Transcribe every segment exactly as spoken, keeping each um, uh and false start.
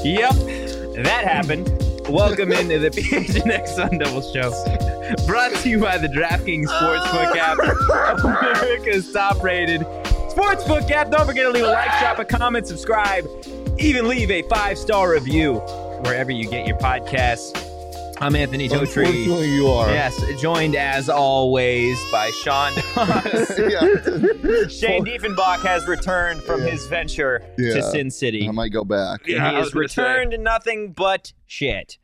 Yep, that happened. Welcome into the P H N X Sun Devils show. Brought to you by the DraftKings Sportsbook app, America's top-rated sportsbook app. Don't forget to leave a like, drop a comment, subscribe, even leave a five-star review wherever you get your podcasts. I'm Anthony Totri. Unfortunately, you are. Yes, joined as always by Sean Doss. Shane Diefenbach has returned from Yeah. his venture Yeah. to Sin City. I might go back. And Yeah, he I was has gonna returned to nothing but shit.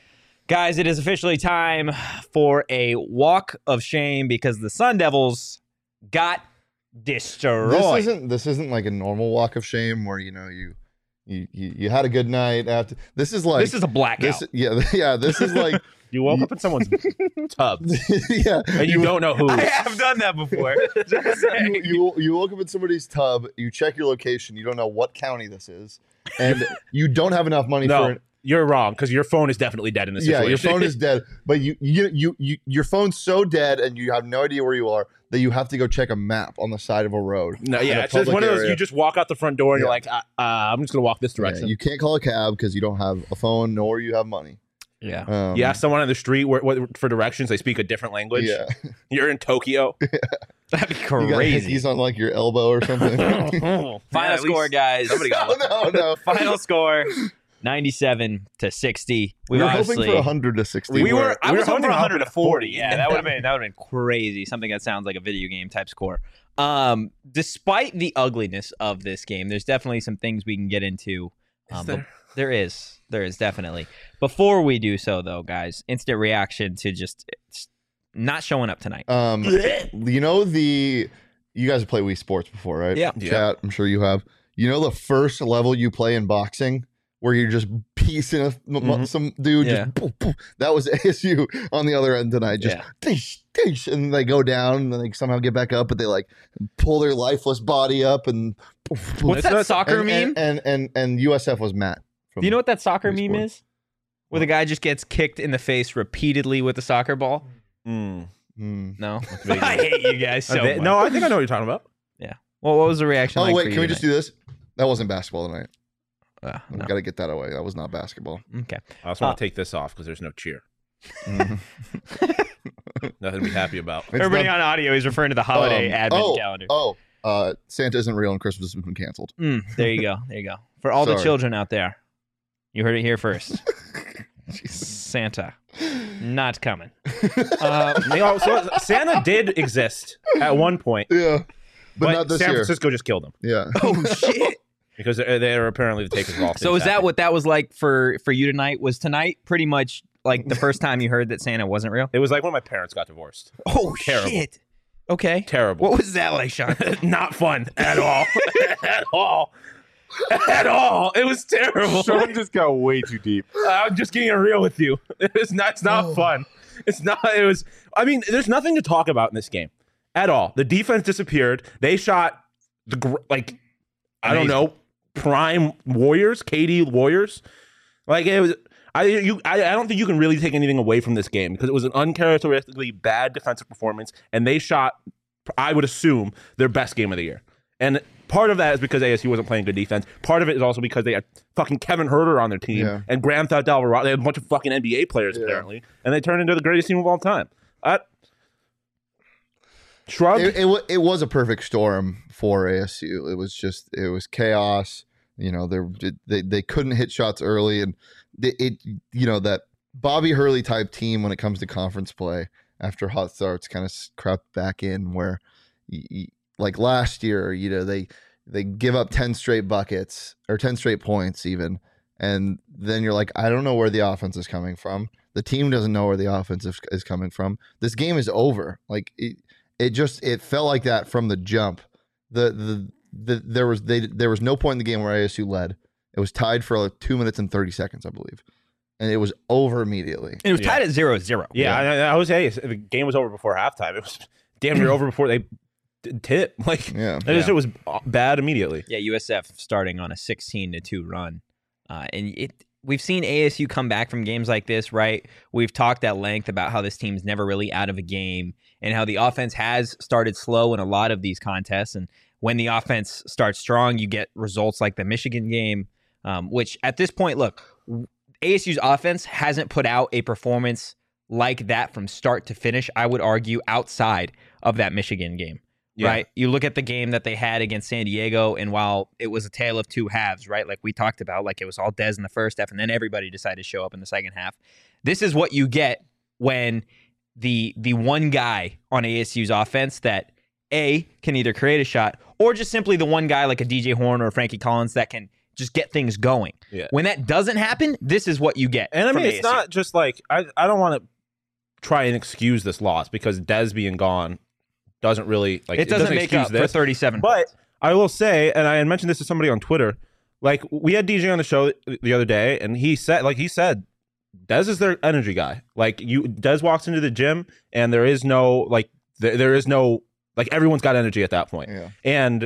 Guys, it is officially time for a walk of shame because the Sun Devils got destroyed. This isn't this isn't like a normal walk of shame where you know you you you, you had a good night after. This is like This is a blackout. this, yeah yeah. This is like You woke up in someone's tub, yeah. and you don't know who. I have done that before. Just saying. You, you you woke up in somebody's tub. You check your location. You don't know what county this is, and you don't have enough money No, for it. you're wrong because your phone is definitely dead in this Yeah, situation. your phone is dead, but you, you you you your phone's so dead, and you have no idea where you are that you have to go check a map on the side of a road. No, in yeah, a it's just public one of those. area. You just walk out the front door and Yeah. you're like, uh, uh, I'm just gonna walk this Yeah, direction. you can't call a cab because you don't have a phone nor you have money. Yeah. Um, you ask someone on the street where, what, for directions. They speak a different language. Yeah, You're in Tokyo. That'd be you got crazy. hickeys on like your elbow or something. Final Yeah, at score, least guys. Somebody got no, no, no. Final score, ninety-seven to sixty. We We've were hoping obviously for one hundred to sixty. We We were- were. I we was were hoping for hoping one hundred to forty. for Yeah, that would have been that would have been crazy. Something that sounds like a video game type score. Um, despite the ugliness of this game, there's definitely some things we can get into. Is Um, but there? there is. There is definitely. Before we do so, though, guys, instant reaction to just it's not showing up tonight. Um, you know the you guys have played Wii Sports before, right? Yeah. Yeah. Chat. I'm sure you have. You know the first level you play in boxing where you're just piecing a, m- Mhm. some dude. Yeah. Just boom, boom. That was A S U on the other end tonight. Just Yeah. dish, dish, and they go down and then they somehow get back up, but they like pull their lifeless body up and. poof, poof. What's It's that not- soccer and, meme? And, and and and U S F was Matt. From do you know what that soccer Wii meme Sports. is? Where the guy just gets kicked in the face repeatedly with a soccer ball? Mm. Hmm. No, really I hate you guys so Uh, they- much. no, I think I know what you're talking about. Well, what was the reaction? Oh like wait, for can you we just tonight? do this? That wasn't basketball tonight. Uh, We no. got to get that away. That was not basketball. Okay. I also want Uh, to take this off because there's no cheer. Mhm. Nothing to be happy about. It's Everybody not- on audio is referring to the holiday Um, advent oh, calendar. Oh, uh, Santa isn't real and Christmas has been canceled. Mm, there you go. There you go. For all the Sorry. children out there, you heard it here first. Santa, not coming. Uh, they also, Santa did exist at one point, Yeah, but, but, not this San year. Francisco just killed him Yeah. Oh shit! because they're, they're apparently the takers of all things. So is that happy. what that was like for for you tonight? Was tonight pretty much like the first time you heard that Santa wasn't real? It was like when my parents got divorced. Oh Terrible. shit! Okay. Terrible. What was that like, Sean? Not fun at all. at all. At all. It was terrible. Sean just got way too deep. I'm just getting real with you. It's not. It's not Oh. fun. It's not. It was. I mean, there's nothing to talk about in this game at all. The defense disappeared. They shot the gr- like I don't Amazing. know prime Warriors, K D Warriors. Like it was. I you I, I don't think you can really take anything away from this game because it was an uncharacteristically bad defensive performance, and they shot. I would assume their best game of the year, and part of that is because A S U wasn't playing good defense. Part of it is also because they had fucking Kevin Herter on their team Yeah. and Grand Theft Alvarado. They had a bunch of fucking N B A players Yeah. apparently, and they turned into the greatest team of all time. Uh, shrug. It, it, wa- it was a perfect storm for A S U. It was just it was chaos. You know, they they they couldn't hit shots early, and it, it you know that Bobby Hurley type team when it comes to conference play after hot starts kind of crept back in where, y- y- like last year, you know they they give up ten straight buckets or ten straight points even, and then you're like, I don't know where the offense is coming from. The team doesn't know where the offense is, is coming from. This game is over. Like it, it just it felt like that from the jump. The the the there was they there was no point in the game where A S U led. It was tied for like two minutes and thirty seconds, I believe, and it was over immediately. It was Yeah. tied at zero zero. yeah, I, I was hey, the game was over before halftime. It was damn near over before they d- tip. Like Yeah, it, just, it was bad immediately. Yeah, U S F starting on a sixteen to two run. Uh, and it we've seen A S U come back from games like this, right? We've talked at length about how this team's never really out of a game and how the offense has started slow in a lot of these contests. And when the offense starts strong, you get results like the Michigan game. Um, which at this point, look, A S U's offense hasn't put out a performance like that from start to finish, I would argue, outside of that Michigan game. Yeah. Right? You look at the game that they had against San Diego, and while it was a tale of two halves, right? Like we talked about, like it was all Dez in the first half, and then everybody decided to show up in the second half. This is what you get when the the one guy on A S U's offense that, A, can either create a shot, or just simply the one guy like a D J Horn or a Frankie Collins that can just get things going. Yeah. When that doesn't happen, this is what you get. And I mean, it's A S U. not just like, I, I don't want to try and excuse this loss because Dez being gone doesn't really like it doesn't, doesn't make up this. for thirty-seven But points. I will say, and I had mentioned this to somebody on Twitter, like we had D J on the show the other day, and he said, like he said, Dez is their energy guy. Like you, Dez walks into the gym, and there is no like there, there is no like everyone's got energy at that point, Yeah. and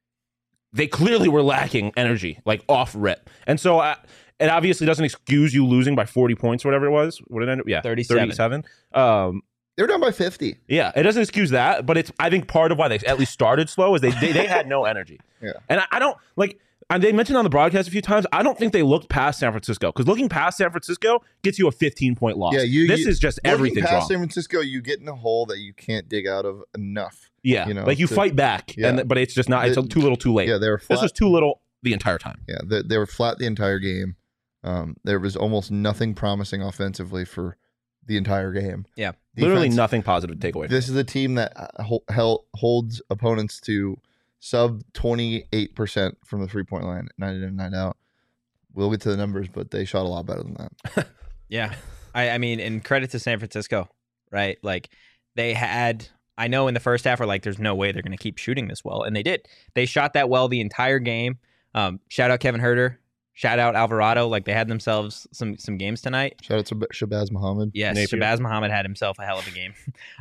they clearly were lacking energy, like off rip, and so I, it obviously doesn't excuse you losing by forty points, whatever it was. What did it end up? Yeah, thirty-seven. thirty-seven. Um, They were down by fifty. Yeah, it doesn't excuse that, but it's I think part of why they at least started slow is they they, they had no energy. Yeah. And I, I don't like and they mentioned on the broadcast a few times, I don't think they looked past San Francisco because looking past San Francisco gets you a fifteen point loss. Yeah, you, this you, is just looking everything's past wrong. San Francisco, you get in a hole that you can't dig out of enough. Yeah, you know, like you to- fight back, yeah. and but it's just not. It's The- too little, too late. Yeah, they were flat. This was too little the entire time. Yeah, they, they were flat the entire game. Um, there was almost nothing promising offensively for the entire game. Yeah. Literally Defense- nothing positive to take away. This is a team that uh, hol- hel- holds opponents to sub twenty-eight percent from the three-point line, night in and night out. We'll get to the numbers, but they shot a lot better than that. Yeah. I, I mean, and credit to San Francisco, right? Like they had, I know in the first half, we're like, there's no way they're going to keep shooting this well. And they did. They shot that well the entire game. Um, shout out Kevin Herter. Shout out Alvarado. Like they had themselves some some games tonight. Shout out to B- Shabazz Muhammad. Yes, Napier. Shabazz Muhammad had himself a hell of a game.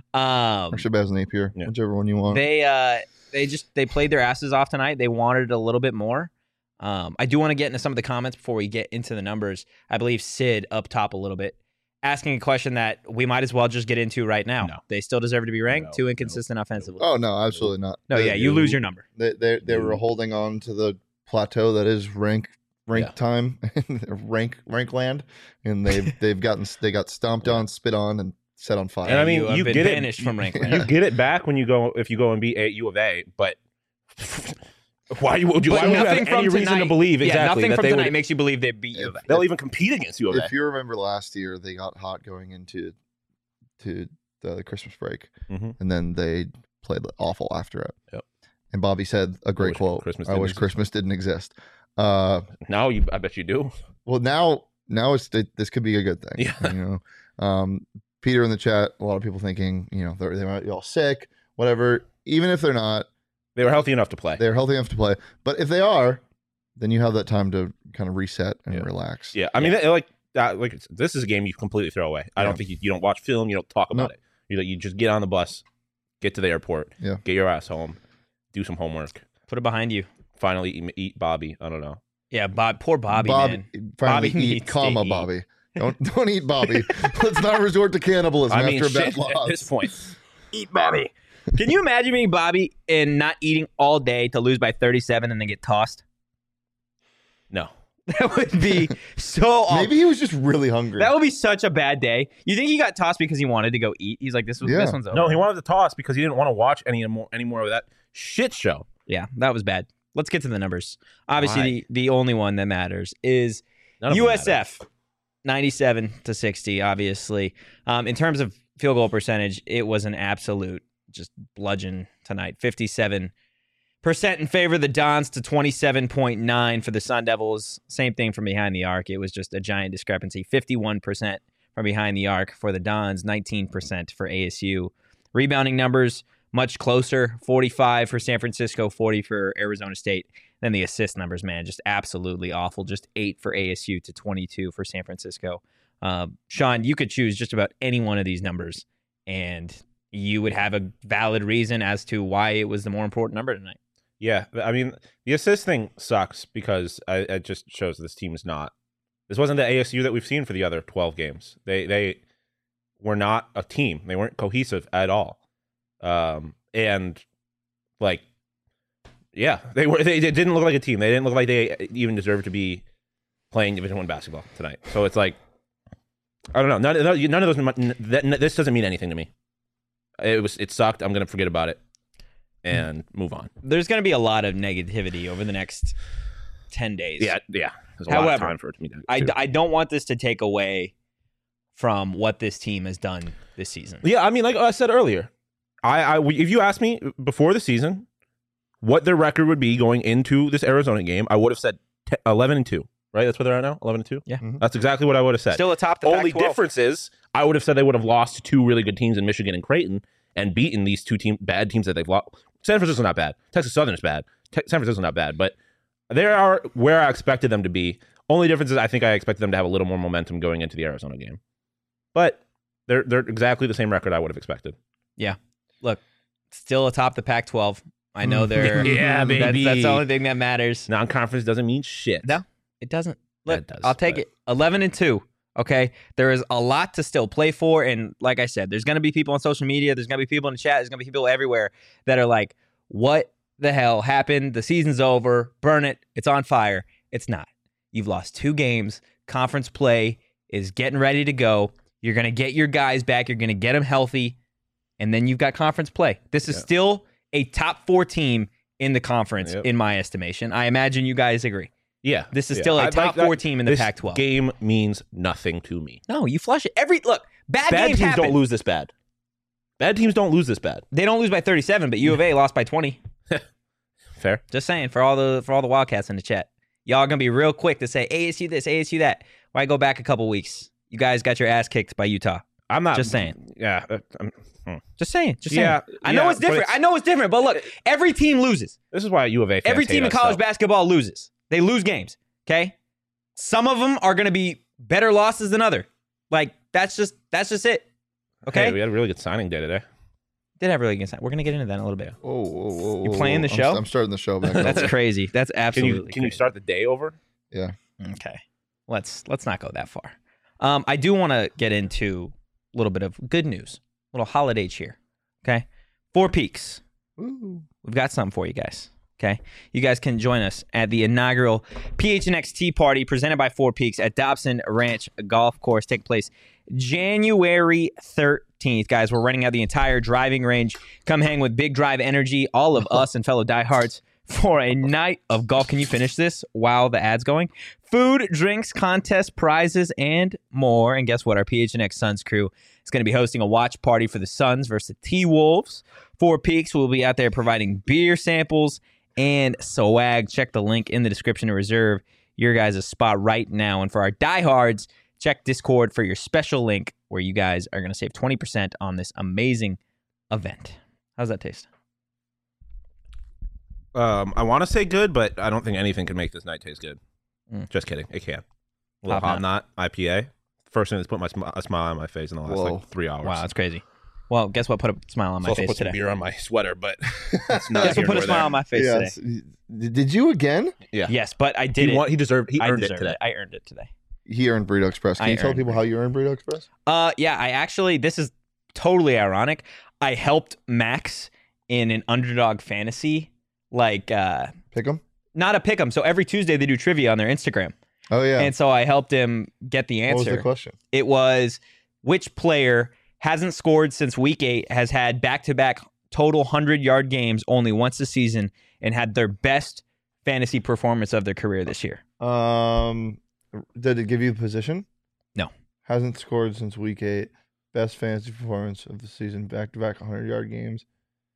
um, Or Shabazz Napier, Yeah. whichever one you want. they uh, they just they played their asses off tonight. They wanted a little bit more. Um, I do want to get into some of the comments before we get into the numbers. I believe Sid up top a little bit, asking a question that we might as well just get into right now. No. They still deserve to be ranked. No, Too no, inconsistent offensively. oh, no, absolutely not. no, They- yeah, you lose your number. They, they, they were No. holding on to the plateau that is rank rank Yeah. time, rank rank land, and they've they've gotten they got stomped on, spit on, and set on fire. And I mean, you, have you been get it- banished from rank. You get it back when you go if you go and beat a U of A, but why you would you, But why would you have nothing from any reason to tonight- believe yeah, exactly nothing that from they tonight would makes you believe they beat you. If- they'll even compete against U of A. If you remember last year, they got hot going into to the Christmas break, Mhm. and then they played awful after it. Yep. And Bobby said a great wish quote: Christmas "I didn't wish exist." Christmas didn't exist." Uh, Now you, I bet you do. well, now now it's it, this could be a good thing. Yeah. You know, um, Peter in the chat, a lot of people thinking, you know, they're, they might be all sick, whatever. Even if they're not, They were healthy enough to play. they're healthy enough to play. But if they are, then you have that time to kind of reset and Yeah. relax. Yeah, I mean, that- like that, like it's- this is a game you completely throw away. I Yeah. don't think you, you don't watch film, you don't talk about it. You you just get on the bus, get to the airport, Yeah. get your ass home, do some homework, Put it behind you. finally eat, eat Bobby. I don't know. Yeah, Bob. Poor Bobby, Bobby, man. finally Bobby eat, needs to comma, eat. Bobby. Don't don't eat Bobby. Let's not resort to cannibalism I mean, after a bad shit, loss. at this point, Eat Bobby. Can you imagine being Bobby and not eating all day to lose by thirty-seven and then get tossed? no. That would be so awful. Maybe he was just really hungry. That would be such a bad day. You think he got tossed because he wanted to go eat? He's like, this was Yeah. this one's over. No, he wanted to toss because he didn't want to watch any more any more of that shit show. Yeah, that was bad. Let's get to the numbers. Obviously, Why? the, the only one that matters is None of them U S F, matter. ninety-seven to sixty, obviously. Um, in terms of field goal percentage, it was an absolute just bludgeon tonight. fifty-seven percent in favor of the Dons to twenty-seven point nine for the Sun Devils. Same thing from behind the arc. It was just a giant discrepancy. fifty-one percent from behind the arc for the Dons, nineteen percent for A S U. Rebounding numbers, much closer. forty-five for San Francisco, forty for Arizona State. Then the assist numbers, man, just absolutely awful. Just eight for A S U to twenty-two for San Francisco. Uh, Sean, you could choose just about any one of these numbers, and you would have a valid reason as to why it was the more important number tonight. Yeah, I mean, the assist thing sucks because I, it just shows this team is not. This wasn't the A S U that we've seen for the other twelve games. They they were not a team. They weren't cohesive at all. Um, and like, yeah, they were. They, they didn't look like a team. They didn't look like they even deserved to be playing Division One basketball tonight. So it's like, I don't know. None, none of those. That, this doesn't mean anything to me. It was. It sucked. I'm gonna forget about it and move on. There's going to be a lot of negativity over the next ten days. Yeah, yeah. There's a However, lot of time for it to be done. I, I don't want this to take away from what this team has done this season. Yeah, I mean, like I said earlier, I, I if you asked me before the season what their record would be going into this Arizona game, I would have said eleven and two. Right? That's where they're at now. Eleven and two. Yeah, Mhm. That's exactly what I would have said. Still atop the Only Pac twelve. difference is I would have said they would have lost to two really good teams in Michigan and Creighton and beaten these two team bad teams that they've lost. San Francisco's not bad. Texas Southern is bad. Te- San Francisco's not bad, but they are where I expected them to be. Only difference is I think I expected them to have a little more momentum going into the Arizona game. But they're they're exactly the same record I would have expected. Look, still atop the Pac twelve. I know they're Yeah, That's, baby. that's the only thing that matters. Non-conference doesn't mean shit. No. It doesn't. Yeah, Look, it does, I'll take but- it. eleven and two. Okay. There is a lot to still play for. And like I said, there's going to be people on social media. There's going to be people in the chat. There's going to be people everywhere that are like, what the hell happened? The season's over. Burn it. It's on fire. It's not. You've lost two games. Conference play is getting ready to go. You're going to get your guys back. You're going to get them healthy. And then you've got conference play. This is Yeah. still a top four team in the conference, Yep. in my estimation. I imagine you guys agree. Yeah. This is yeah. still a I'd top like four that- team in the this Pac twelve. game means nothing to me. No, you flush it. Every look, bad, Bad games teams happen. don't lose this bad. Bad teams don't lose this bad. They don't lose by thirty-seven, but U of A lost by twenty. Fair. Just saying for all the for all the Wildcats in the chat, y'all are gonna be real quick to say A S U this, A S U that. Why go back a couple weeks? You guys got your ass kicked by Utah. I'm not Just saying. Yeah. uh, I'm- hmm. Just saying. Just saying. Yeah, I know yeah, it's but different. it's- I know it's different. But look, every team loses. This is why U of A fans Every hate team in us, college though. basketball loses. They lose games. Okay. Some of them are gonna be better losses than other. Like that's just that's just it. Okay. Hey, we had a really good signing day today. Did have really good sign. We're gonna get into that in a little bit. Whoa, whoa, whoa, You whoa, playing the whoa. show? I'm, I'm starting the show back. That's over. crazy. That's Can absolutely. you can you crazy. start the day over? Yeah. Okay. Let's let's not go that far. Um, I do want to get into a little bit of good news, a little holiday cheer. Okay, Four Peaks. Woo. We've got something for you guys. Okay, you guys can join us at the inaugural P H N X Tea Party presented by Four Peaks at Dobson Ranch Golf Course. Take place January thirteenth. Guys, we're renting out the entire driving range. Come hang with Big Drive Energy, all of us and fellow diehards for a night of golf. Can you finish this while the ad's going? Food, drinks, contests, prizes, and more. And guess what? Our P H N X Suns crew is going to be hosting a watch party for the Suns versus the T-Wolves. Four Peaks will be out there providing beer samples and swag. Check the link in the description to reserve your guys' spot right now. And for our diehards, check Discord for your special link where you guys are going to save twenty percent on this amazing event. How's that taste? Um, I want to say good, but I don't think anything can make this night taste good. Mm. Just kidding. It can. A little Hop hot knot I P A. First thing that's put my sm- a smile on my face in the last Whoa. like three hours. Wow, that's crazy. Well, guess what put a smile on It's my also face put some today? beer on my sweater, but that's not Guess here what put a nor smile there. on my face Yes. today? Did you again? Yeah. Yes, but I did He, it. want, he deserved. He I earned it deserved today. it. I earned it today. He earned Burrito Express. Can I you tell earned people how you earned Burrito Express? Uh, yeah, I actually, this is totally ironic. I helped Max in an underdog fantasy, like, uh, Pick 'em? not a pick 'em. So every Tuesday they do trivia on their Instagram. Oh, yeah. And so I helped him get the what was answer. the question? It was which player hasn't scored since week eight, has had back-to-back total hundred-yard games only once this season, and had their best fantasy performance of their career this year. Um, did it give you the position? No. Hasn't scored since week eight. Best fantasy performance of the season. Back-to-back hundred-yard games.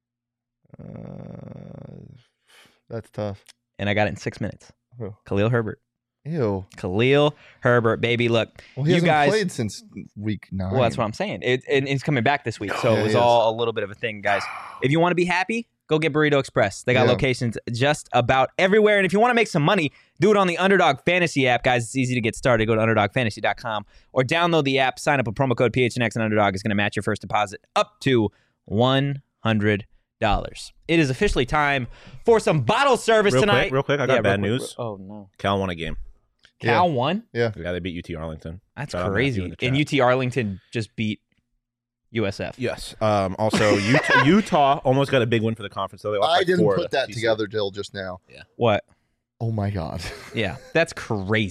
Uh, that's tough. And I got it in six minutes. Who? Khalil Herbert. Ew. Khalil Herbert, baby. Look, Well, he you hasn't guys. played since week nine. Well, that's what I'm saying. It, and he's coming back this week, so Yeah, it was he is. all a little bit of a thing, guys. If you want to be happy, go get Burrito Express. They got Yeah. locations just about everywhere. And if you want to make some money, do it on the Underdog Fantasy app, guys. It's easy to get started. Go to underdog fantasy dot com or download the app. Sign up with promo code P H N X, and Underdog is going to match your first deposit up to one hundred dollars. It is officially time for some bottle service Real tonight. quick, real quick. I got Yeah, bad real quick. news. Oh no, Cal won a game. Cal won. Yeah. Yeah, they beat U T Arlington. That's Shout out Matthew crazy. in the And chat. U T Arlington just beat U S F. Yes. Um, also, Utah, Utah almost got a big win for the conference. So they lost I by didn't four put to that T C U. together till just now. What? Oh my god. Yeah, that's crazy.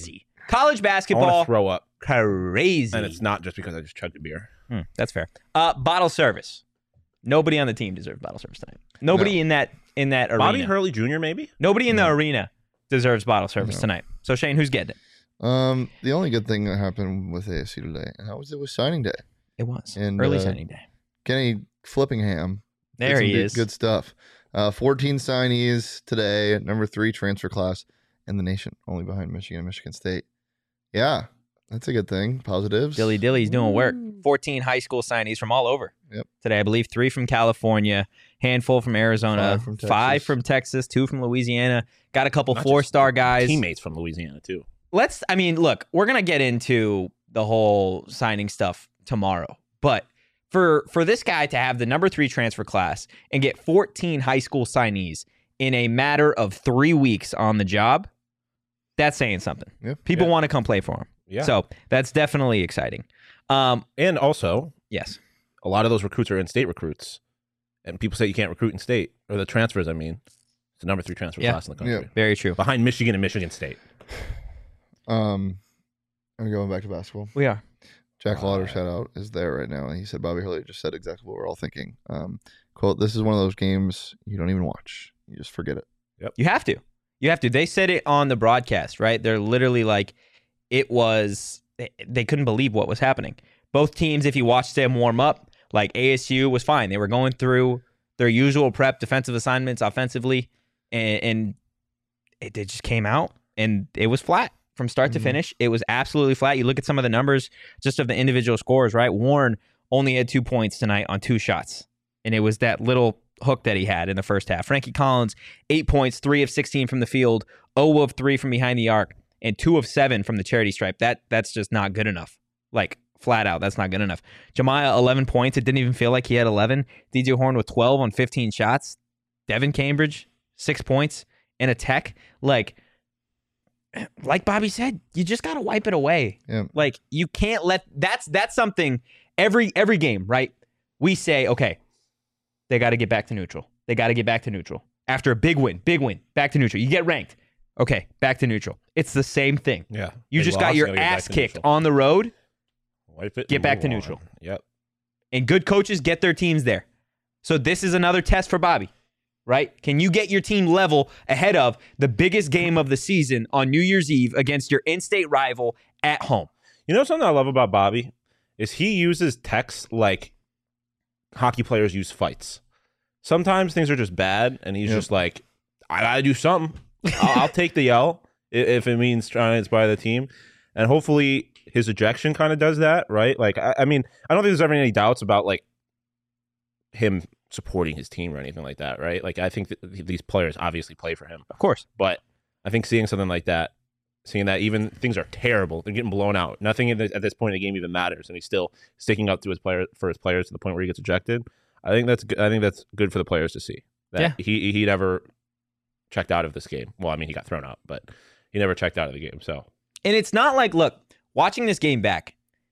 College I want basketball, to throw up, crazy. and it's not just because I just chugged a beer. Hmm, that's fair. Uh, bottle service. Nobody on the team deserves bottle service tonight. Nobody No. in that in that arena. Bobby Hurley Junior maybe? Nobody in the arena deserves bottle service No. tonight. So Shane, who's getting it? Um, the only good thing that happened with A S U today, and that was it was signing day. It was And, early uh, signing day. Kenny Flippingham. did There some he good, is. Good stuff. Uh, fourteen signees today, number three transfer class in the nation, only behind Michigan and Michigan State. Yeah, that's a good thing. Positives. Dilly Dilly's doing work. fourteen high school signees from all over. Yep. Today, I believe three from California, handful from Arizona, Five from Texas. five from Texas, two from Louisiana. Got a couple Not four just star guys. Teammates from Louisiana, too. Let's, I mean, look, we're going to get into the whole signing stuff tomorrow. But for for this guy to have the number three transfer class and get fourteen high school signees in a matter of three weeks on the job, that's saying something. Yep. People Yeah. want to come play for him. Yeah. So that's definitely exciting. Um, And also, yes. a lot of those recruits are in-state recruits. And people say you can't recruit in state, or the transfers, I mean. It's the number three transfer Yeah. class in the country. Yeah. Very true. Behind Michigan and Michigan State. Um, are we going back to basketball? We are. Jack Lauder, Uh, shout out, is there right now, and he said Bobby Hurley just said exactly what we're all thinking. Um, quote: "This is one of those games you don't even watch; you just forget it." You have to. You have to. They said it on the broadcast, right? They're literally like, it was, they, they couldn't believe what was happening. Both teams, if you watched them warm up, like A S U was fine. They were going through their usual prep, defensive assignments, offensively, and, and it, it just came out, and it was flat from start to Mhm. finish. It was absolutely flat. You look at some of the numbers just of the individual scores, right? Warren only had two points tonight on two shots, and it was that little hook that he had in the first half. Frankie Collins, eight points, three of sixteen from the field, zero of three from behind the arc, and two of seven from the charity stripe. That That's just not good enough. Like, flat out, that's not good enough. Jemiah, eleven points. It didn't even feel like he had eleven. D J Horn with twelve on fifteen shots. Devin Cambridge, six points, and a tech. Like, like Bobby said, you just got to wipe it away. Yeah. Like, you can't let, that's that's something every every game, right? We say, okay, they got to get back to neutral. They got to get back to neutral. After a big win, big win, back to neutral. You get ranked. Okay, back to neutral. It's the same thing. Yeah. You They just got lost, your gotta get back ass to kicked neutral. on the road, Wipe it get and back move to on. neutral. Yep. and good coaches get their teams there. So this is another test for Bobby, right? Can you get your team level ahead of the biggest game of the season on New Year's Eve against your in-state rival at home? You know something I love about Bobby is he uses text like hockey players use fights. Sometimes things are just bad, and he's Yep. just like, I gotta do something. I'll, I'll take the L i- if it means trying to inspire the team. And hopefully his ejection kind of does that, right? Like, I, I mean, I don't think there's ever any doubts about like him supporting his team or anything like that, right? Like, I think that these players obviously play for him, Of course. but I think seeing something like that, seeing that even things are terrible, they're getting blown out, nothing in the, at this point in the game even matters, and he's still sticking up to his player for his players to the point where he gets ejected. I think that's good. I think that's good for the players to see that Yeah. he he never checked out of this game. Well, I mean, he got thrown out, but he never checked out of the game. So And it's not like, look, watching this game back,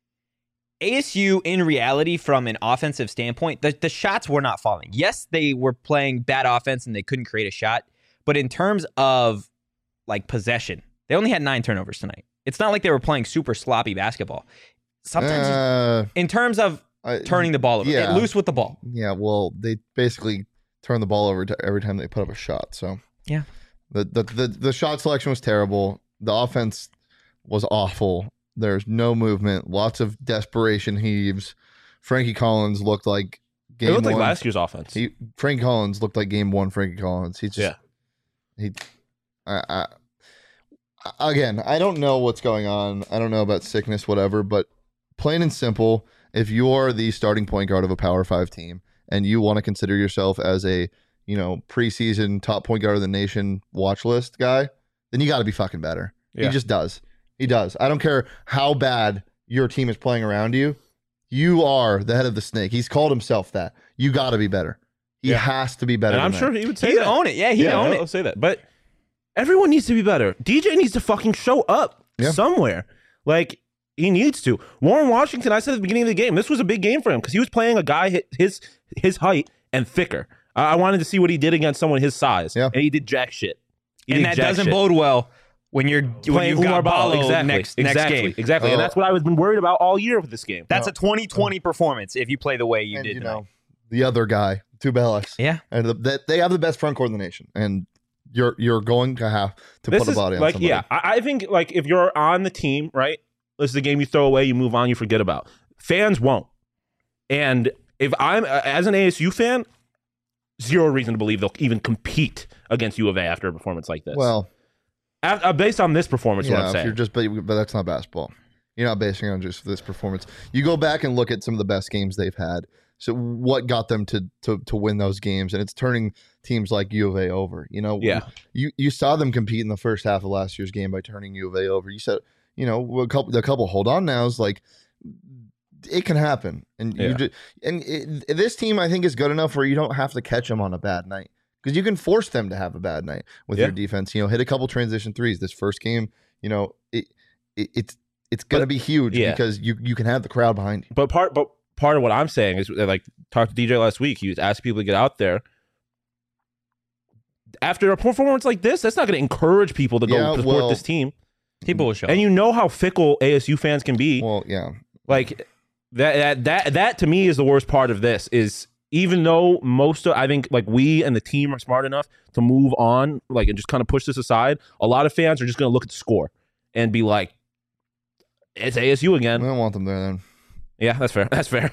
A S U in reality from an offensive standpoint, the, the shots were not falling. Yes, they were playing bad offense and they couldn't create a shot. But in terms of like possession, they only had nine turnovers tonight. It's not like they were playing super sloppy basketball. Sometimes Uh, in terms of I, turning the ball over, yeah. loose with the ball. Yeah, well, they basically turn the ball over to every time they put up a shot. So Yeah. the the the, the shot selection was terrible. The offense was awful. There's no movement. Lots of desperation heaves. Frankie Collins looked like game it looked one. like last year's offense. He Frankie Collins looked like game one. Frankie Collins. He just yeah, he. I, I again, I don't know what's going on. I don't know about sickness, whatever. But plain and simple, if you're the starting point guard of a Power Five team and you want to consider yourself as a, you know, preseason top point guard of the nation watch list guy, then you got to be fucking better. Yeah. He just does. He does. I don't care how bad your team is playing around you. You are the head of the snake. He's called himself that. You got to be better. He Yeah. has to be better. and I'm than sure that. he would say He'd that. own it. Yeah, he'd yeah, own I'll it. say that. But everyone needs to be better. D J needs to fucking show up Yeah. somewhere. Like, he needs to. Warren Washington, I said at the beginning of the game, this was a big game for him because he was playing a guy hi- his his height and thicker. I I wanted to see what he did against someone his size. Yeah. And he did jack shit. He And did that jack doesn't shit. bode well when you're when playing you've got Umar Balo Balo exactly, next exactly, next game. exactly, Oh. and that's what I was been worried about all year with this game. That's No. a twenty twenty performance if you play the way you and did you tonight. know the other guy, Tubelis. Yeah. And the, that they have the best front court in the nation, and you're you're going to have to This put a is body on like, somebody. yeah, I, I think like if you're on the team, right? This is a game you throw away, you move on, you forget about. Fans won't, and if I'm uh, as an A S U fan, zero reason to believe they'll even compete against U of A after a performance like this. Well, Af- uh, based on this performance, what yeah, I'm if saying. you're just but, but that's not basketball. You're not basing it on just this performance. You go back and look at some of the best games they've had. So what got them to to to win those games, and it's turning teams like U of A over. You know, Yeah. You you saw them compete in the first half of last year's game by turning U of A over. You said, you know, a couple the couple hold on nows, like it can happen, and you Yeah. just, and it, this team I think is good enough where you don't have to catch them on a bad night because you can force them to have a bad night with Yeah. your defense. You know, hit a couple transition threes. This first game, you know, it, it it's it's gonna But- be huge yeah. because you you can have the crowd behind you. But part, but part of what I'm saying is, like, talked to D J last week. He was asking people to get out there. After a performance like this, that's not going to encourage people to go Yeah, to support well- this team. People will show. And you know how fickle A S U fans can be. Well, yeah, Like that, that, that, that to me is the worst part of this. Is even though most of, I think like we and the team are smart enough to move on, like and just kind of push this aside. A lot of fans are just going to look at the score and be like, "It's A S U I again." don't want them there then. Yeah, that's fair. That's fair.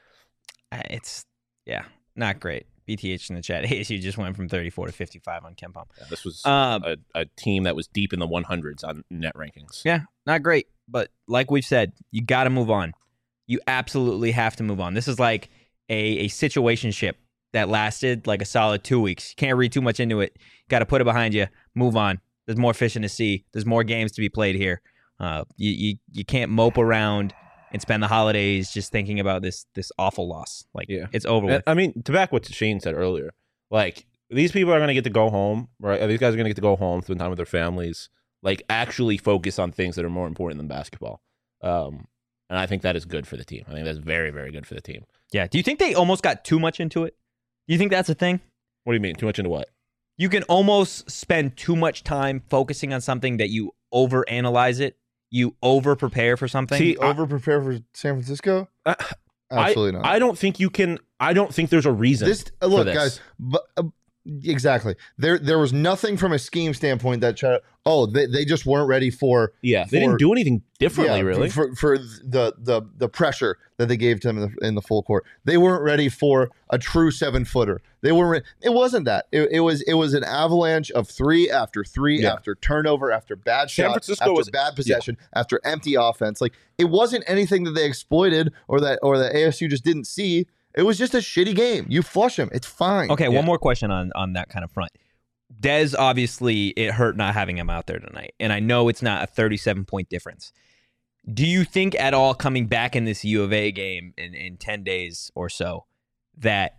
Uh, It's yeah, not great. B T H in the chat. A S U just went from thirty-four to fifty-five on Ken Palm. Yeah, this was Um, a, a team that was deep in the one hundreds on net rankings. Yeah, not great. But like we've said, you got to move on. You absolutely have to move on. This is like a, a situationship that lasted like a solid two weeks. You can't read too much into it. Got to put it behind you. Move on. There's more fish in the sea. There's more games to be played here. Uh, you, you you can't mope around and spend the holidays just thinking about this this awful loss. Like Yeah. it's over And, with. I mean, to back what Shane said earlier, like these people are going to get to go home, right? These guys are going to get to go home, spend time with their families, like actually focus on things that are more important than basketball. Um, and I think that is good for the team. I think that's very, very good for the team. Yeah. Do you think they almost got too much into it? Do you think that's a thing? What do you mean? Too much into what? You can almost spend too much time focusing on something that you overanalyze it. You over prepare for something. See, I- Over prepare for San Francisco? Uh, Absolutely not. I don't think you can. I don't think there's a reason. This uh, look, for this. guys. But uh, exactly, there there was nothing from a scheme standpoint that tried. Oh, they, they just weren't ready for. yeah, they for- didn't do anything differently, yeah, really. for, for the the the pressure that they gave to them in the, in the full court. They weren't ready for a true seven footer. They weren't. Re- it wasn't that. It, it was it was an avalanche of three after three Yeah. after turnover after bad San shot Francisco after was- bad possession after empty offense. Like it wasn't anything that they exploited or that or that A S U just didn't see. It was just a shitty game. You flush them. It's fine. Okay, Yeah. one more question on on that kind of front. Dez, obviously, it hurt not having him out there tonight, and I know it's not a thirty-seven point difference. Do you think at all coming back in this U of A game in, in ten days or so that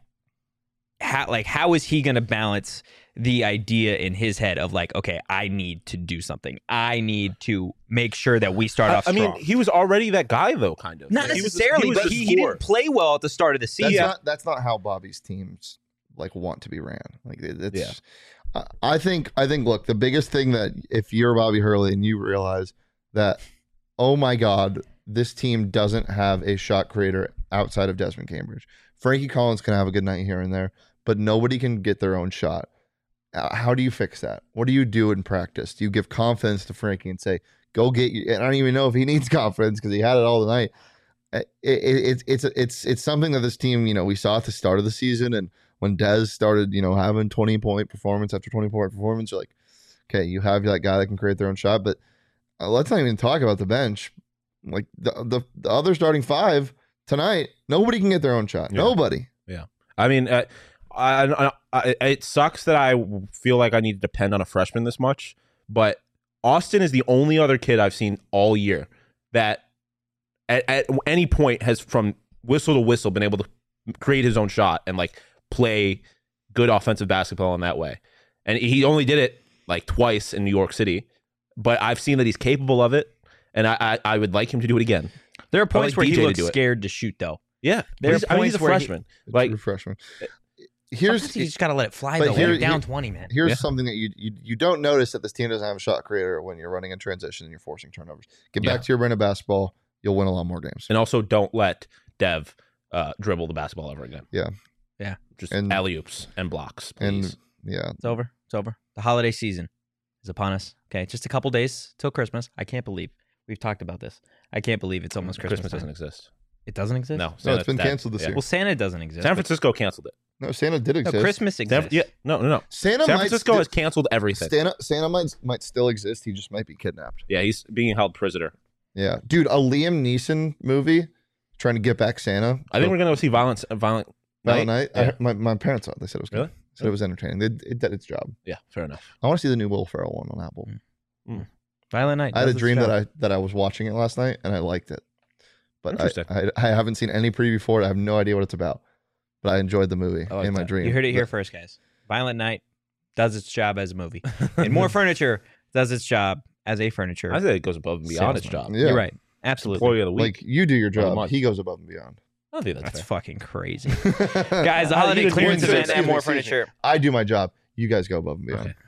how like how is he going to balance the idea in his head of like, okay, I need to do something. I need to make sure that we start I, off I mean, strong. he was already that guy, though, kind of. Not He was the- necessarily, was but the he, he scorer. didn't play well at the start of the That's season. not that's not how Bobby's teams like want to be ran. Like it- it's. Yeah. I- I think I think look, the biggest thing that if you're Bobby Hurley and you realize that, oh my God, this team doesn't have a shot creator outside of Desmond Cambridge. Frankie Collins can have a good night here and there, but nobody can get their own shot. Uh, How do you fix that? What do you do in practice? Do you give confidence to Frankie and say, "Go get you"? And I don't even know if he needs confidence because he had it all tonight. It, it, it, it's it's it's something that this team, you know, we saw at the start of the season, and when Dez started, you know, having twenty point performance after twenty point performance, you're like, okay, you have that guy that can create their own shot. But uh, let's not even talk about the bench. Like the, the the other starting five tonight, nobody can get their own shot. Yeah. Nobody. I mean, uh, I, I, I, it sucks that I feel like I need to depend on a freshman this much, but Austin is the only other kid I've seen all year that at, at any point has, from whistle to whistle, been able to create his own shot and like play good offensive basketball in that way. And he only did it like twice in New York City, but I've seen that he's capable of it, and I, I, I would like him to do it again. There are I points like where D J he to looks do it. scared to shoot, though. Yeah, There he's, are I mean, he's a points where he- freshman. A Like, true freshman. here's Sometimes you just gotta let it fly but though. here- When you're down here- twenty, man. here's Yeah. something that you, you you don't notice that this team doesn't have a shot creator when you're running in transition and you're forcing turnovers. Get Yeah. back to your brand of basketball. You'll win a lot more games. And also, don't let Dev uh, dribble the basketball ever again. Yeah. Yeah. Just And- alley oops and blocks, And please. yeah, It's over. It's over. The holiday season is upon us. Okay, just a couple days till Christmas. I can't believe we've talked about this. I can't believe it's almost Christmas. Christmas time. doesn't exist. It doesn't exist. No, no, Santa's it's been dead. canceled this Yeah. year. Well, Santa doesn't exist. San but- Francisco canceled it. No, Santa did No, exist. Christmas San, exists. yeah, no, no, no. Santa San might Francisco sti- has canceled everything. Santa Santa might might still exist. He just might be kidnapped. Yeah, he's being held prisoner. Yeah, dude, a Liam Neeson movie trying to get back Santa. I think we're gonna go see Violent, Violent Violent Night. Night. I Yeah. heard- my my parents saw it. They said it was good. Really? Said it was entertaining. It, it did its job. Yeah, fair enough. I want to see the new Will Ferrell one on Apple. Violent Night. I had a does its dream that job. I that I was watching it last night and I liked it, but I, Interesting. I I haven't seen any preview for it. I have no idea what it's about, but I enjoyed the movie I like in my that. dream. You heard it here But- first, guys. Violent Night does its job as a movie, and More Furniture does its job as a furniture. I say it goes above and beyond its salesman. job. Yeah. You're right. Absolutely. Employee of the week. Like you do your Of the job, month. he goes above and beyond. I don't think that's, That's fair. fucking crazy, guys. The How holiday you did clearance one event six. at More Excuse me, excuse Furniture. I do my job. You guys go above and beyond. Okay.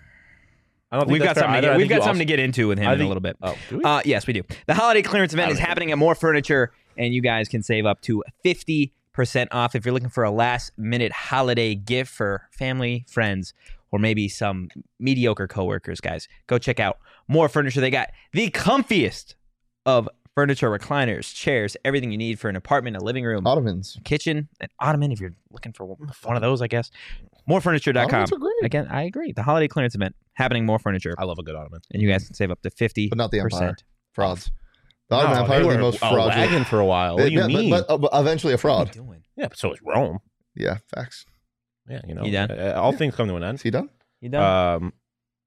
I don't think We've got that's fair something. To either. get, I we've think got you something also- to get into with him I in a think- little bit. Oh, do we? Uh, yes, we do. The holiday clearance event I is don't happening at More Furniture, and you guys can save up to fifty percent off if you're looking for a last-minute holiday gift for family, friends, or maybe some mediocre coworkers. Guys, go check out More Furniture. They got the comfiest of furniture, recliners, chairs, everything you need for an apartment, a living room, Ottomans. kitchen, an ottoman. If you're looking for one one of those, I guess. more furniture dot com. Ottomans are great, Again, I agree. The holiday clearance event happening More Furniture, I love a good ottoman. and you guys can save up to fifty but not the Empire. percent. Frauds. The Ottoman No, Empire they is the were most a fraudulent. wagon for a while. What do you Yeah, but- mean? But, uh, but eventually a What are you fraud. doing? yeah, but so is Rome. Yeah, facts. Yeah, you know. You done? uh, all things come to an Is end. he done? You done? Um,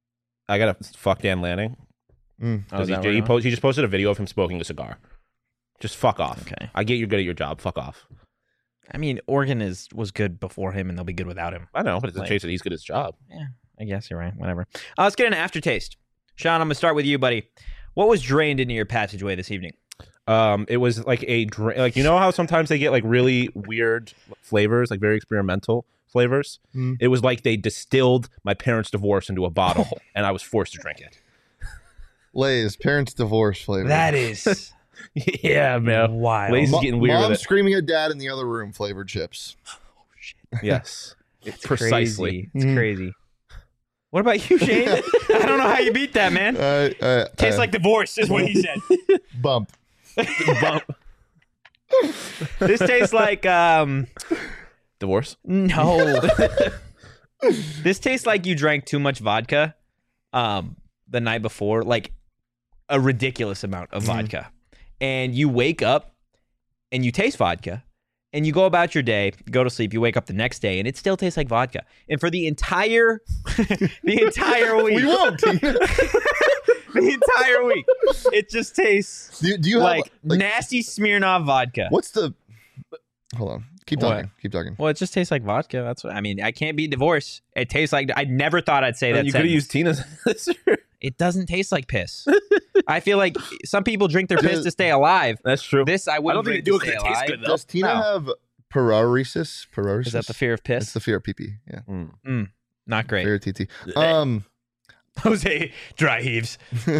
I gotta fuck Dan Lanning. Mm. Oh, 'Cause is he, that he, what it post, he just posted a video of him smoking a cigar. Just fuck off. Okay. I get you're good at your job. Fuck off. I mean, Oregon is was good before him, and they'll be good without him. I know, but it's a Like- chase that he's good at his job. Yeah, I guess you're right. Whatever. Uh, let's get an aftertaste. Sean, I'm gonna start with you, buddy. What was drained into your passageway this evening? Um, it was like a drink. Like you know how sometimes they get like really weird flavors, like very experimental flavors. Mm. It was like they distilled my parents' divorce into a bottle, and I was forced to drink it. Lay's parents' divorce flavor. That is yeah, man. wild. Lay's- Mo- getting weird Mom with it. screaming at dad in the other room flavored chips. Yes, It's precisely. Crazy. It's Mm. crazy. What about you, Shane? I don't know how you beat that, man. Uh, uh, Tastes uh, like divorce, is what he said. bump. Bump. This tastes like um Divorce. no. This tastes like you drank too much vodka um the night before, like a ridiculous amount of Mhm. vodka. And you wake up and you taste vodka and you go about your day, go to sleep, you wake up the next day and it still tastes like vodka. And for the entire the entire week We won't. the entire week it just tastes do, do you like, have like nasty Smirnoff vodka. what's the? Hold on. Keep What? talking. Keep talking. Well, it just tastes like vodka. That's what I mean. I can't be divorced. It tastes like I never thought I'd say that. you could have sentence. used Tina's. It doesn't taste like piss. I feel like some people drink their piss Does- to stay alive. That's true. This I I wouldn't don't think drink they do to it stay 'cause it tastes alive. good though. Does Tina No. have paralysis? Paralysis. Is that the fear of It's piss? the fear of pee pee. Yeah. Mm. Not great. Fear of T T. Um. Jose dry heaves. oh,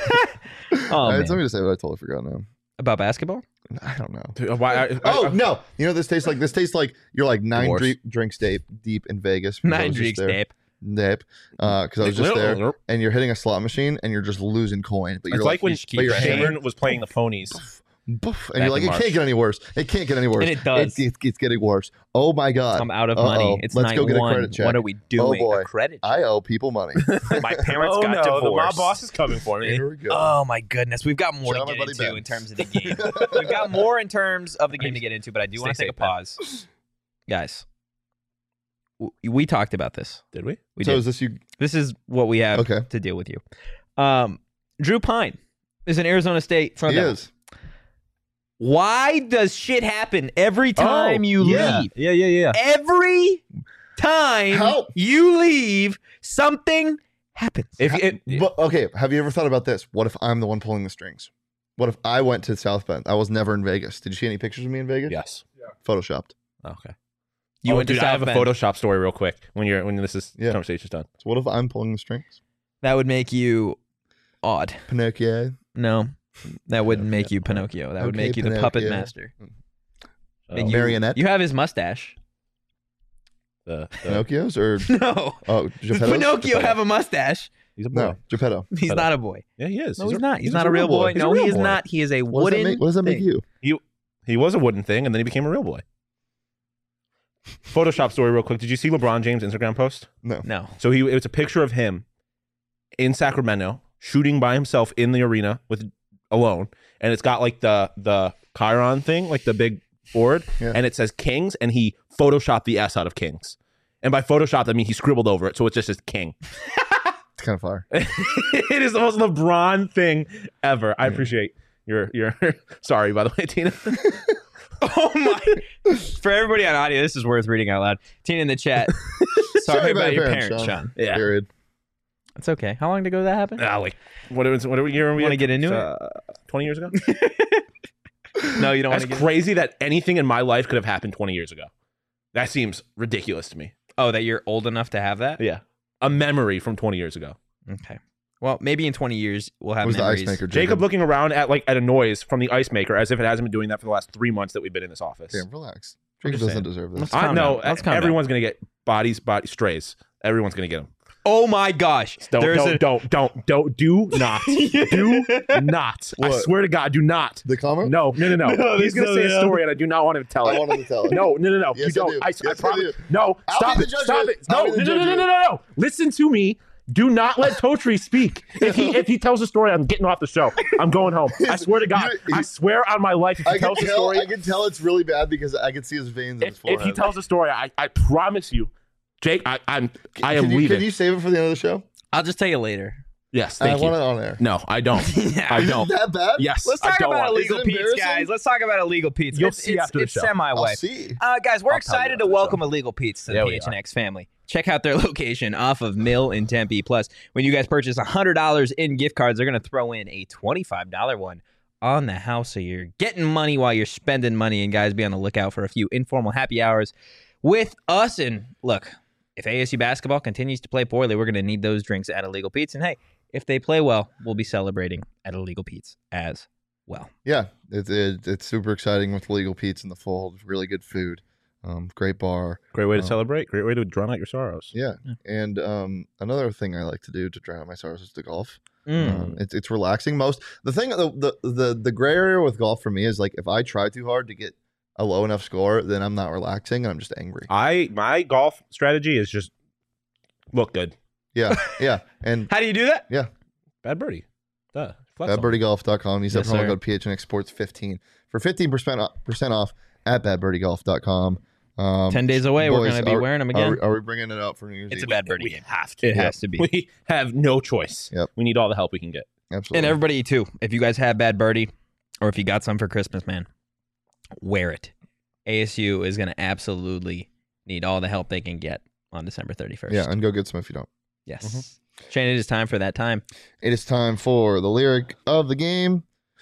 I had man. something to say, but I totally forgot now. About basketball? I don't know. Dude, why? I, I, Oh I- no! You know what this tastes like? This tastes like you're like nine Divorce. dre- drinks deep deep in Vegas. because I Nine was just drinks, there. Dave. Deep. Because I was just there, and you're hitting a slot machine, and you're just losing coin. But you're It's like when you should keep but you're that. hammered. Cameron was playing the ponies. Boof, and Back you're like, in it March. can't get any worse. It can't get any worse. And it does. It, it, it's getting worse. Oh my god! I'm out of Uh-oh. money. It's Let's night go get a one. credit check. What are we doing? boy. A credit check. I owe people money. My parents oh got no, divorced. the mob boss is coming for me. Here we go. Oh my goodness, we've got more Shout out to my get buddy into Ben. in terms of the game. We've got more in terms of the game to get into, but I do want to Stay take a safe, Ben. pause, guys. w- We talked about this. Did we? We so did. is this you? This is what we have Okay. to deal with you. Um, Drew Pine is an Arizona State Sun He Devil. is. Why does shit happen every time you yeah. leave? Yeah, yeah, yeah. Every time Help. you leave, something happens. If it, But, okay, have you ever thought about this? What if I'm the one pulling the strings? What if I went to South Bend? I was never in Vegas. Did you see any pictures of me in Vegas? yes. Photoshopped. Okay. You oh, went to dude, I have South a Bend. Photoshop story real quick when you're when this is Yeah. conversation's done. So what if I'm pulling the strings? That would make you odd. Pinocchio. No, that wouldn't make you Pinocchio. That would Okay, make you the puppet Pinocchio. master. Oh, And you, Marionette? You have his mustache. the, the, Pinocchios or No. oh Does Geppettos? Pinocchio have a mustache? he's a boy. No, Geppetto. He's Geppetto. not a boy. Yeah, he is. No, he's, he's a, not. He's, he's not a real boy. He's a No, real he is boy. not. He is a What does that wooden. make, what does that make thing. you? He, he was a wooden thing, and then he became a real boy. Photoshop story real quick. Did you see LeBron James' Instagram post? No. No. So he it was a picture of him in Sacramento shooting by himself in the arena with alone, and it's got like the the Chiron thing, like the big board, Yeah. and it says Kings, and he photoshopped the S out of Kings. And by photoshopped, I mean he scribbled over it, so it's just his king. It's kind of fire. It is the most LeBron thing ever. I appreciate your your. Sorry, by the way, Tina. Oh my! For everybody on audio, this is worth reading out loud. Tina in the chat. Sorry, about, your parents, Sean. Yeah. Period. It's okay. How long ago did that happen? Ah, like what? What, what year? Want to get into uh, Twenty years ago. it? No, you don't want That's to get. crazy that anything in my life could have happened twenty years ago. That seems ridiculous to me. Oh, that you're old enough to have that? Yeah, a memory from twenty years ago. Okay. Well, maybe in twenty years we'll have What was the memories. ice maker? Jacob looking around at like at a noise from the ice maker as if it hasn't been doing that for the last three months that we've been in this office. Damn, relax. I'm Jacob just doesn't saying. deserve this. Let's I calm know down. Let's calm everyone's gonna get bodies, body strays. Everyone's gonna get them. Oh my gosh! Don't, There's don't, a- don't, don't, don't, do not, do not. I What? swear to God, do not. The comment? No, no, no, no. No, He's this gonna is say so a story, and I do not want him to tell I it. want him to tell it. No, no, no, no. Yes, you I don't. do. I, I, Yes, I promise. do. No, I'll stop be it. the judge Stop of it. it. No, I'll no, be no, the no, judge no, of no, it. no, no. Listen to me. Do not let Totri speak. If he if he tells a story, I'm getting off the show. I'm going home. I swear to God. You- I swear on my life, if he I can tells a tell. story, I can tell it's really bad because I can see his veins in his if, forehead. if he tells a story, I, I promise you, Jake, I, I'm I am can you, leaving. Can you save it for the end of the show? I'll just tell you later. Yes, I thank you. want it on air. No, I don't. I Is don't. it that bad? Yes, Let's I talk don't about want- illegal Is it Pete's, embarrassing? guys. Let's talk about illegal Pete's. You'll it's, see it's, after the it's show. semi I'll way. see. Uh, guys, we're I'll tell you excited after to the welcome show. Illegal Pete's to Yeah, the we P H N X family. Check out their location off of Mill in Tempe. Plus, when you guys purchase one hundred dollars in gift cards, they're going to throw in a twenty-five dollars one on the house. So you're getting money while you're spending money. And guys, be on the lookout for a few informal happy hours with us. And look, if A S U basketball continues to play poorly, we're going to need those drinks at Illegal Pete's. And hey, if they play well, we'll be celebrating at Illegal Pete's as well. Yeah, it's it, it's super exciting with Legal Pete's in the fold. Really good food, um, great bar. Great way to Uh, celebrate. Great way to drown out your sorrows. Yeah, Yeah. and um, another thing I like to do to drown out my sorrows is to golf. Mm. Um, it's it's relaxing. Most the thing the, the the the gray area with golf for me is like if I try too hard to get a low enough score, then I'm not relaxing and I'm just angry. I my golf strategy is just look good. Yeah, yeah, and How do you do that? Bad birdie. Duh. Flex on. bad birdie golf dot com. Use that Yes, promo sir. code P H N X Sports fifteen for fifteen percent percent off at bad birdie golf dot com. Um, Ten days away, we're boys, going to be are- wearing them Are again. we, are we bringing it out for New Year's It's a Eve? bad birdie We game. have to. It Yep. has to be. We have no choice. Yep. We need all the help we can get. Absolutely. And everybody too, if you guys have bad birdie, or if you got some for Christmas, man, wear it. A S U is going to absolutely need all the help they can get on December thirty-first. yeah, and go get some if you don't. Yes. Shane, it is time for that time. It is time for the lyric of the game.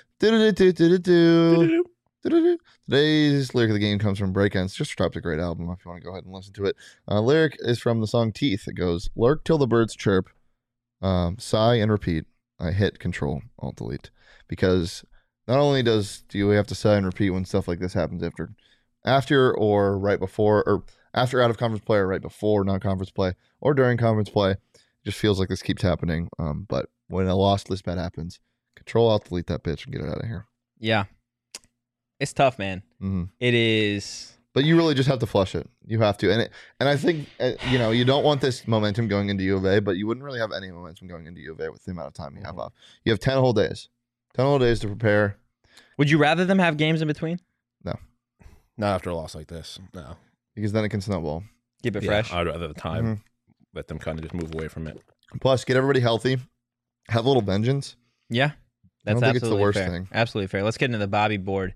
Do-do-do-do-do-do. Do-do-do. Today's lyric of the game comes from Breakends. Just dropped a great album if you want to go ahead and listen to it. Uh, lyric is from the song Teeth. It goes, lurk till the birds chirp, um, sigh and repeat. I hit control, alt delete. Because not only does do you have to sigh and repeat when stuff like this happens after after or right before, or after out of conference play or right before non-conference play or during conference play, it just feels like this keeps happening. Um, but when a loss this bad happens, control alt delete that bitch and get it out of here. Yeah. It's tough, man. hmm It is. But you really just have to flush it. You have to, and it, and I think uh, you know you don't want this momentum going into U of A, but you wouldn't really have any momentum going into U of A with the amount of time you have off. You have ten whole days, ten whole days to prepare. Would you rather them have games in between? Not after a loss like this. No. Because then it can snowball. Keep it Yeah, fresh. I'd rather the time Mhm. let them kind of just move away from it. Plus, get everybody healthy. Have a little vengeance. Yeah. That's don't think it's the absolutely worst fair. thing. Absolutely fair. Let's get into the Bobby board.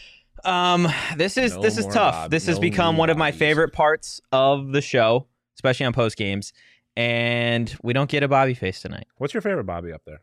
Um, this is No this is more tough. Bob- this has no become new one of my Bobbies. favorite parts of the show, especially on post games. And we don't get a Bobby face tonight. What's your favorite Bobby up there?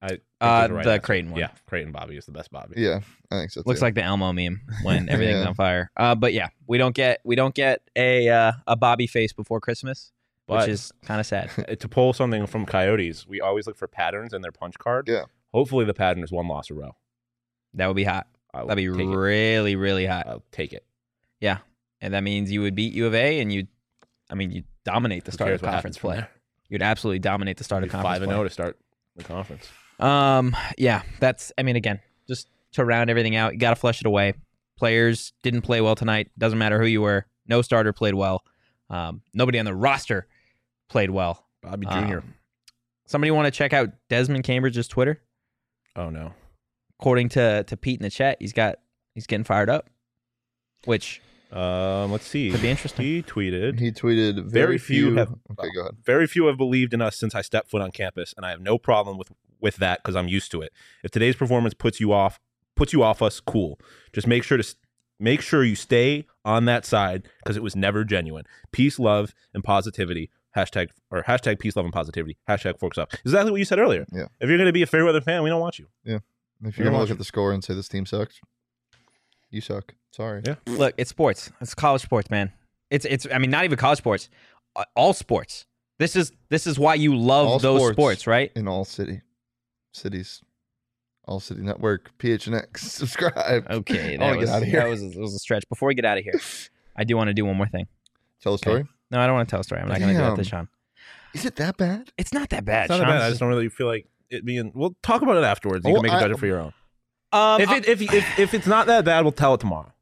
I think Uh, those are right the answer. Creighton one. Yeah, Creighton Bobby is the best Bobby. Yeah, I think so. Looks too. like the Elmo meme when everything's Yeah. on fire. Uh, but yeah, we don't get we don't get a uh, a Bobby face before Christmas, But which is kind of sad. uh, to pull something from Coyotes, we always look for patterns in their punch card. Yeah. Hopefully the pattern is one loss a row. That would be hot. I will That'd be take it. really really hot. I'll take it. Yeah, and that means you would beat U of A, and you, I mean, you dominate the Who start cares of what conference happens from play. there? You'd absolutely dominate the start of Be conference Five and play. zero to start the conference. Um, yeah, that's. I mean, again, just to round everything out, you got to flush it away. Players didn't play well tonight. Doesn't matter who you were. No starter played well. Um, nobody on the roster played well. Bobby Junior Um, somebody want to check out Desmond Cambridge's Twitter? Oh no. According to to Pete in the chat, he's got he's getting fired up, which Um, let's see. could be interesting. He tweeted. He tweeted very, Very few have- Okay, go ahead. Very few have believed in us since I stepped foot on campus, and I have no problem with with that because I'm used to it. If today's performance puts you off puts you off us, cool. Just make sure to s- make sure you stay on that side because it was never genuine. Peace, love, and positivity. Hashtag or hashtag peace, love, and positivity. Hashtag forks up. Exactly what you said earlier. Yeah. If you're going to be a Fairweather fan, we don't want you. If You're you're gonna look watching. at the score and say this team sucks, you suck. Sorry. Yeah. Look, it's sports. It's college sports, man. It's it's. I mean, not even college sports. Uh, All sports. This is this is why you love All those sports. sports, right? In all city cities, all city network, P H N X. Subscribe. Okay, I that wanna was get outta here. that was, that was a stretch. Before we get out of here, I do want to do one more thing. Tell a story. No, I don't want to tell a story. I'm not going to do that to Damn. Sean. Is it that bad? It's not that bad. It's not that Sean's bad. I just don't really feel like it being. We'll talk about it afterwards. You Oh, can make a I- judgment for your own. Um, If it if, if if it's not that bad, we'll tell it tomorrow.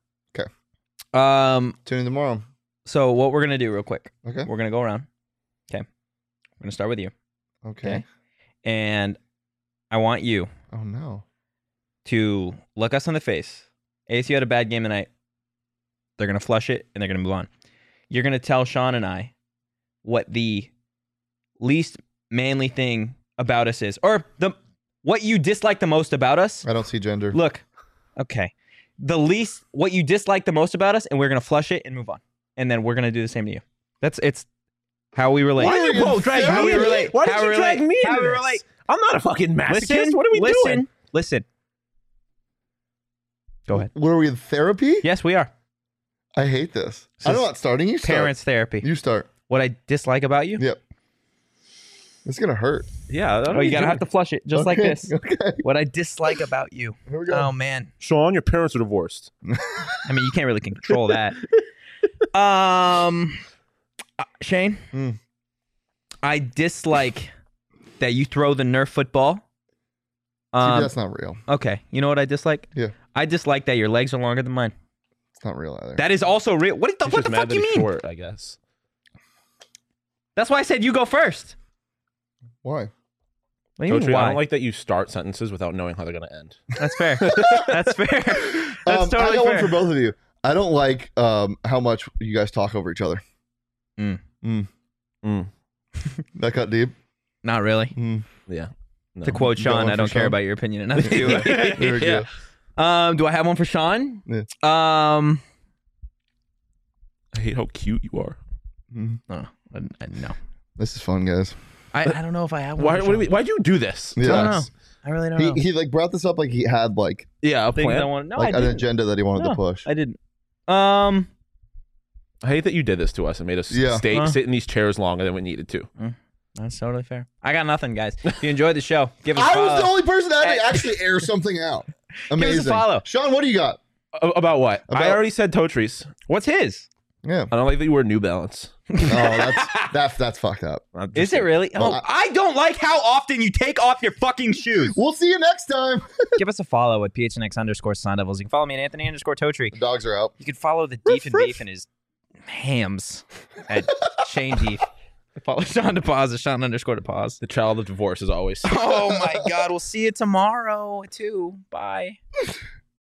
um. Tune in tomorrow. So what we're gonna do real quick? Okay. We're gonna go around. Okay. We're gonna start with you, Okay. Okay. and I want you Oh no. to look us in the face. A S U had a bad game tonight. They're gonna flush it and they're gonna move on. You're gonna tell Sean and I what the least manly thing about us is, or the what you dislike the most about us. I don't see gender. Look, okay, the least what you dislike the most about us, and we're gonna flush it and move on, and then we're gonna do the same to you. That's it's how we relate. Why did you both drag How me we in? relate. Why did How you we drag relate. me How into we this? relate. I'm not a fucking masochist. Listen, What are we listen, doing? Listen. Go ahead. Were we in therapy? Yes, we are. I hate this. This I'm is not starting. You start. Parents therapy. You start. What I dislike about you? Yep. It's gonna hurt. Yeah. Oh, you gotta have to flush it just like Okay, this. Okay. What I dislike about you. Here we go. Oh man. Sean, your parents are divorced. I mean, you can't really control that. Um, uh, Shane, Hmm. I dislike that you throw the Nerf football. See, Um, that's not real. okay, you know what I dislike? Yeah. I dislike that your legs are longer than mine. It's not real either. That is also real. What the, He's what just the mad fuck that you he's mean? short, I guess. That's why I said you go first. Why? What do you mean, Totri, I why? don't like that you start sentences without knowing how they're going to end. That's fair. That's fair. That's Um, totally I got fair. one for both of you. I don't like um, how much you guys talk over each other. Mm. Mm. Mm. That cut deep. Not really. Mm. Yeah. No. To quote You got Sean, one I for don't care Sean? about your opinion enough to. There we go. Um, do I have one for Sean? Yeah. Um, I hate how cute you are. Mm. oh, I, I, no. This is fun, guys. I, I don't know if I have one. Why? for What do we, Sean. why'd you do this? Yeah. I don't know. I really don't He know. he like brought this up like he had like Yeah, a Things I plan. want. No, like I an didn't. agenda that he wanted No. to push. I didn't. Um, I hate that you did this to us and made us Yeah. stay Huh? sit in these chairs longer than we needed to. that's totally fair. I got nothing, guys. If you enjoyed the show, give us a I follow. was the only person that had to Hey. actually air something out. us a Amazing. follow. Sean, what do you got? A- about what? I About- already said Totris. What's his? Yeah. I don't like that you wear New Balance. Oh, that's that's that's fucked up. I'm Is just it really? Well, Oh, I don't like how often you take off your fucking shoes. We'll see you next time. Give us a follow at P H N X underscore Sun Devils. You can follow me at Anthony underscore Totri. The dogs are out. You can follow the Deef and Beef and his hams at Shane Deef. Follow Sean DePaz at Sean underscore DePaz. The child of divorce, as always. Oh my God. We'll see you tomorrow too. Bye.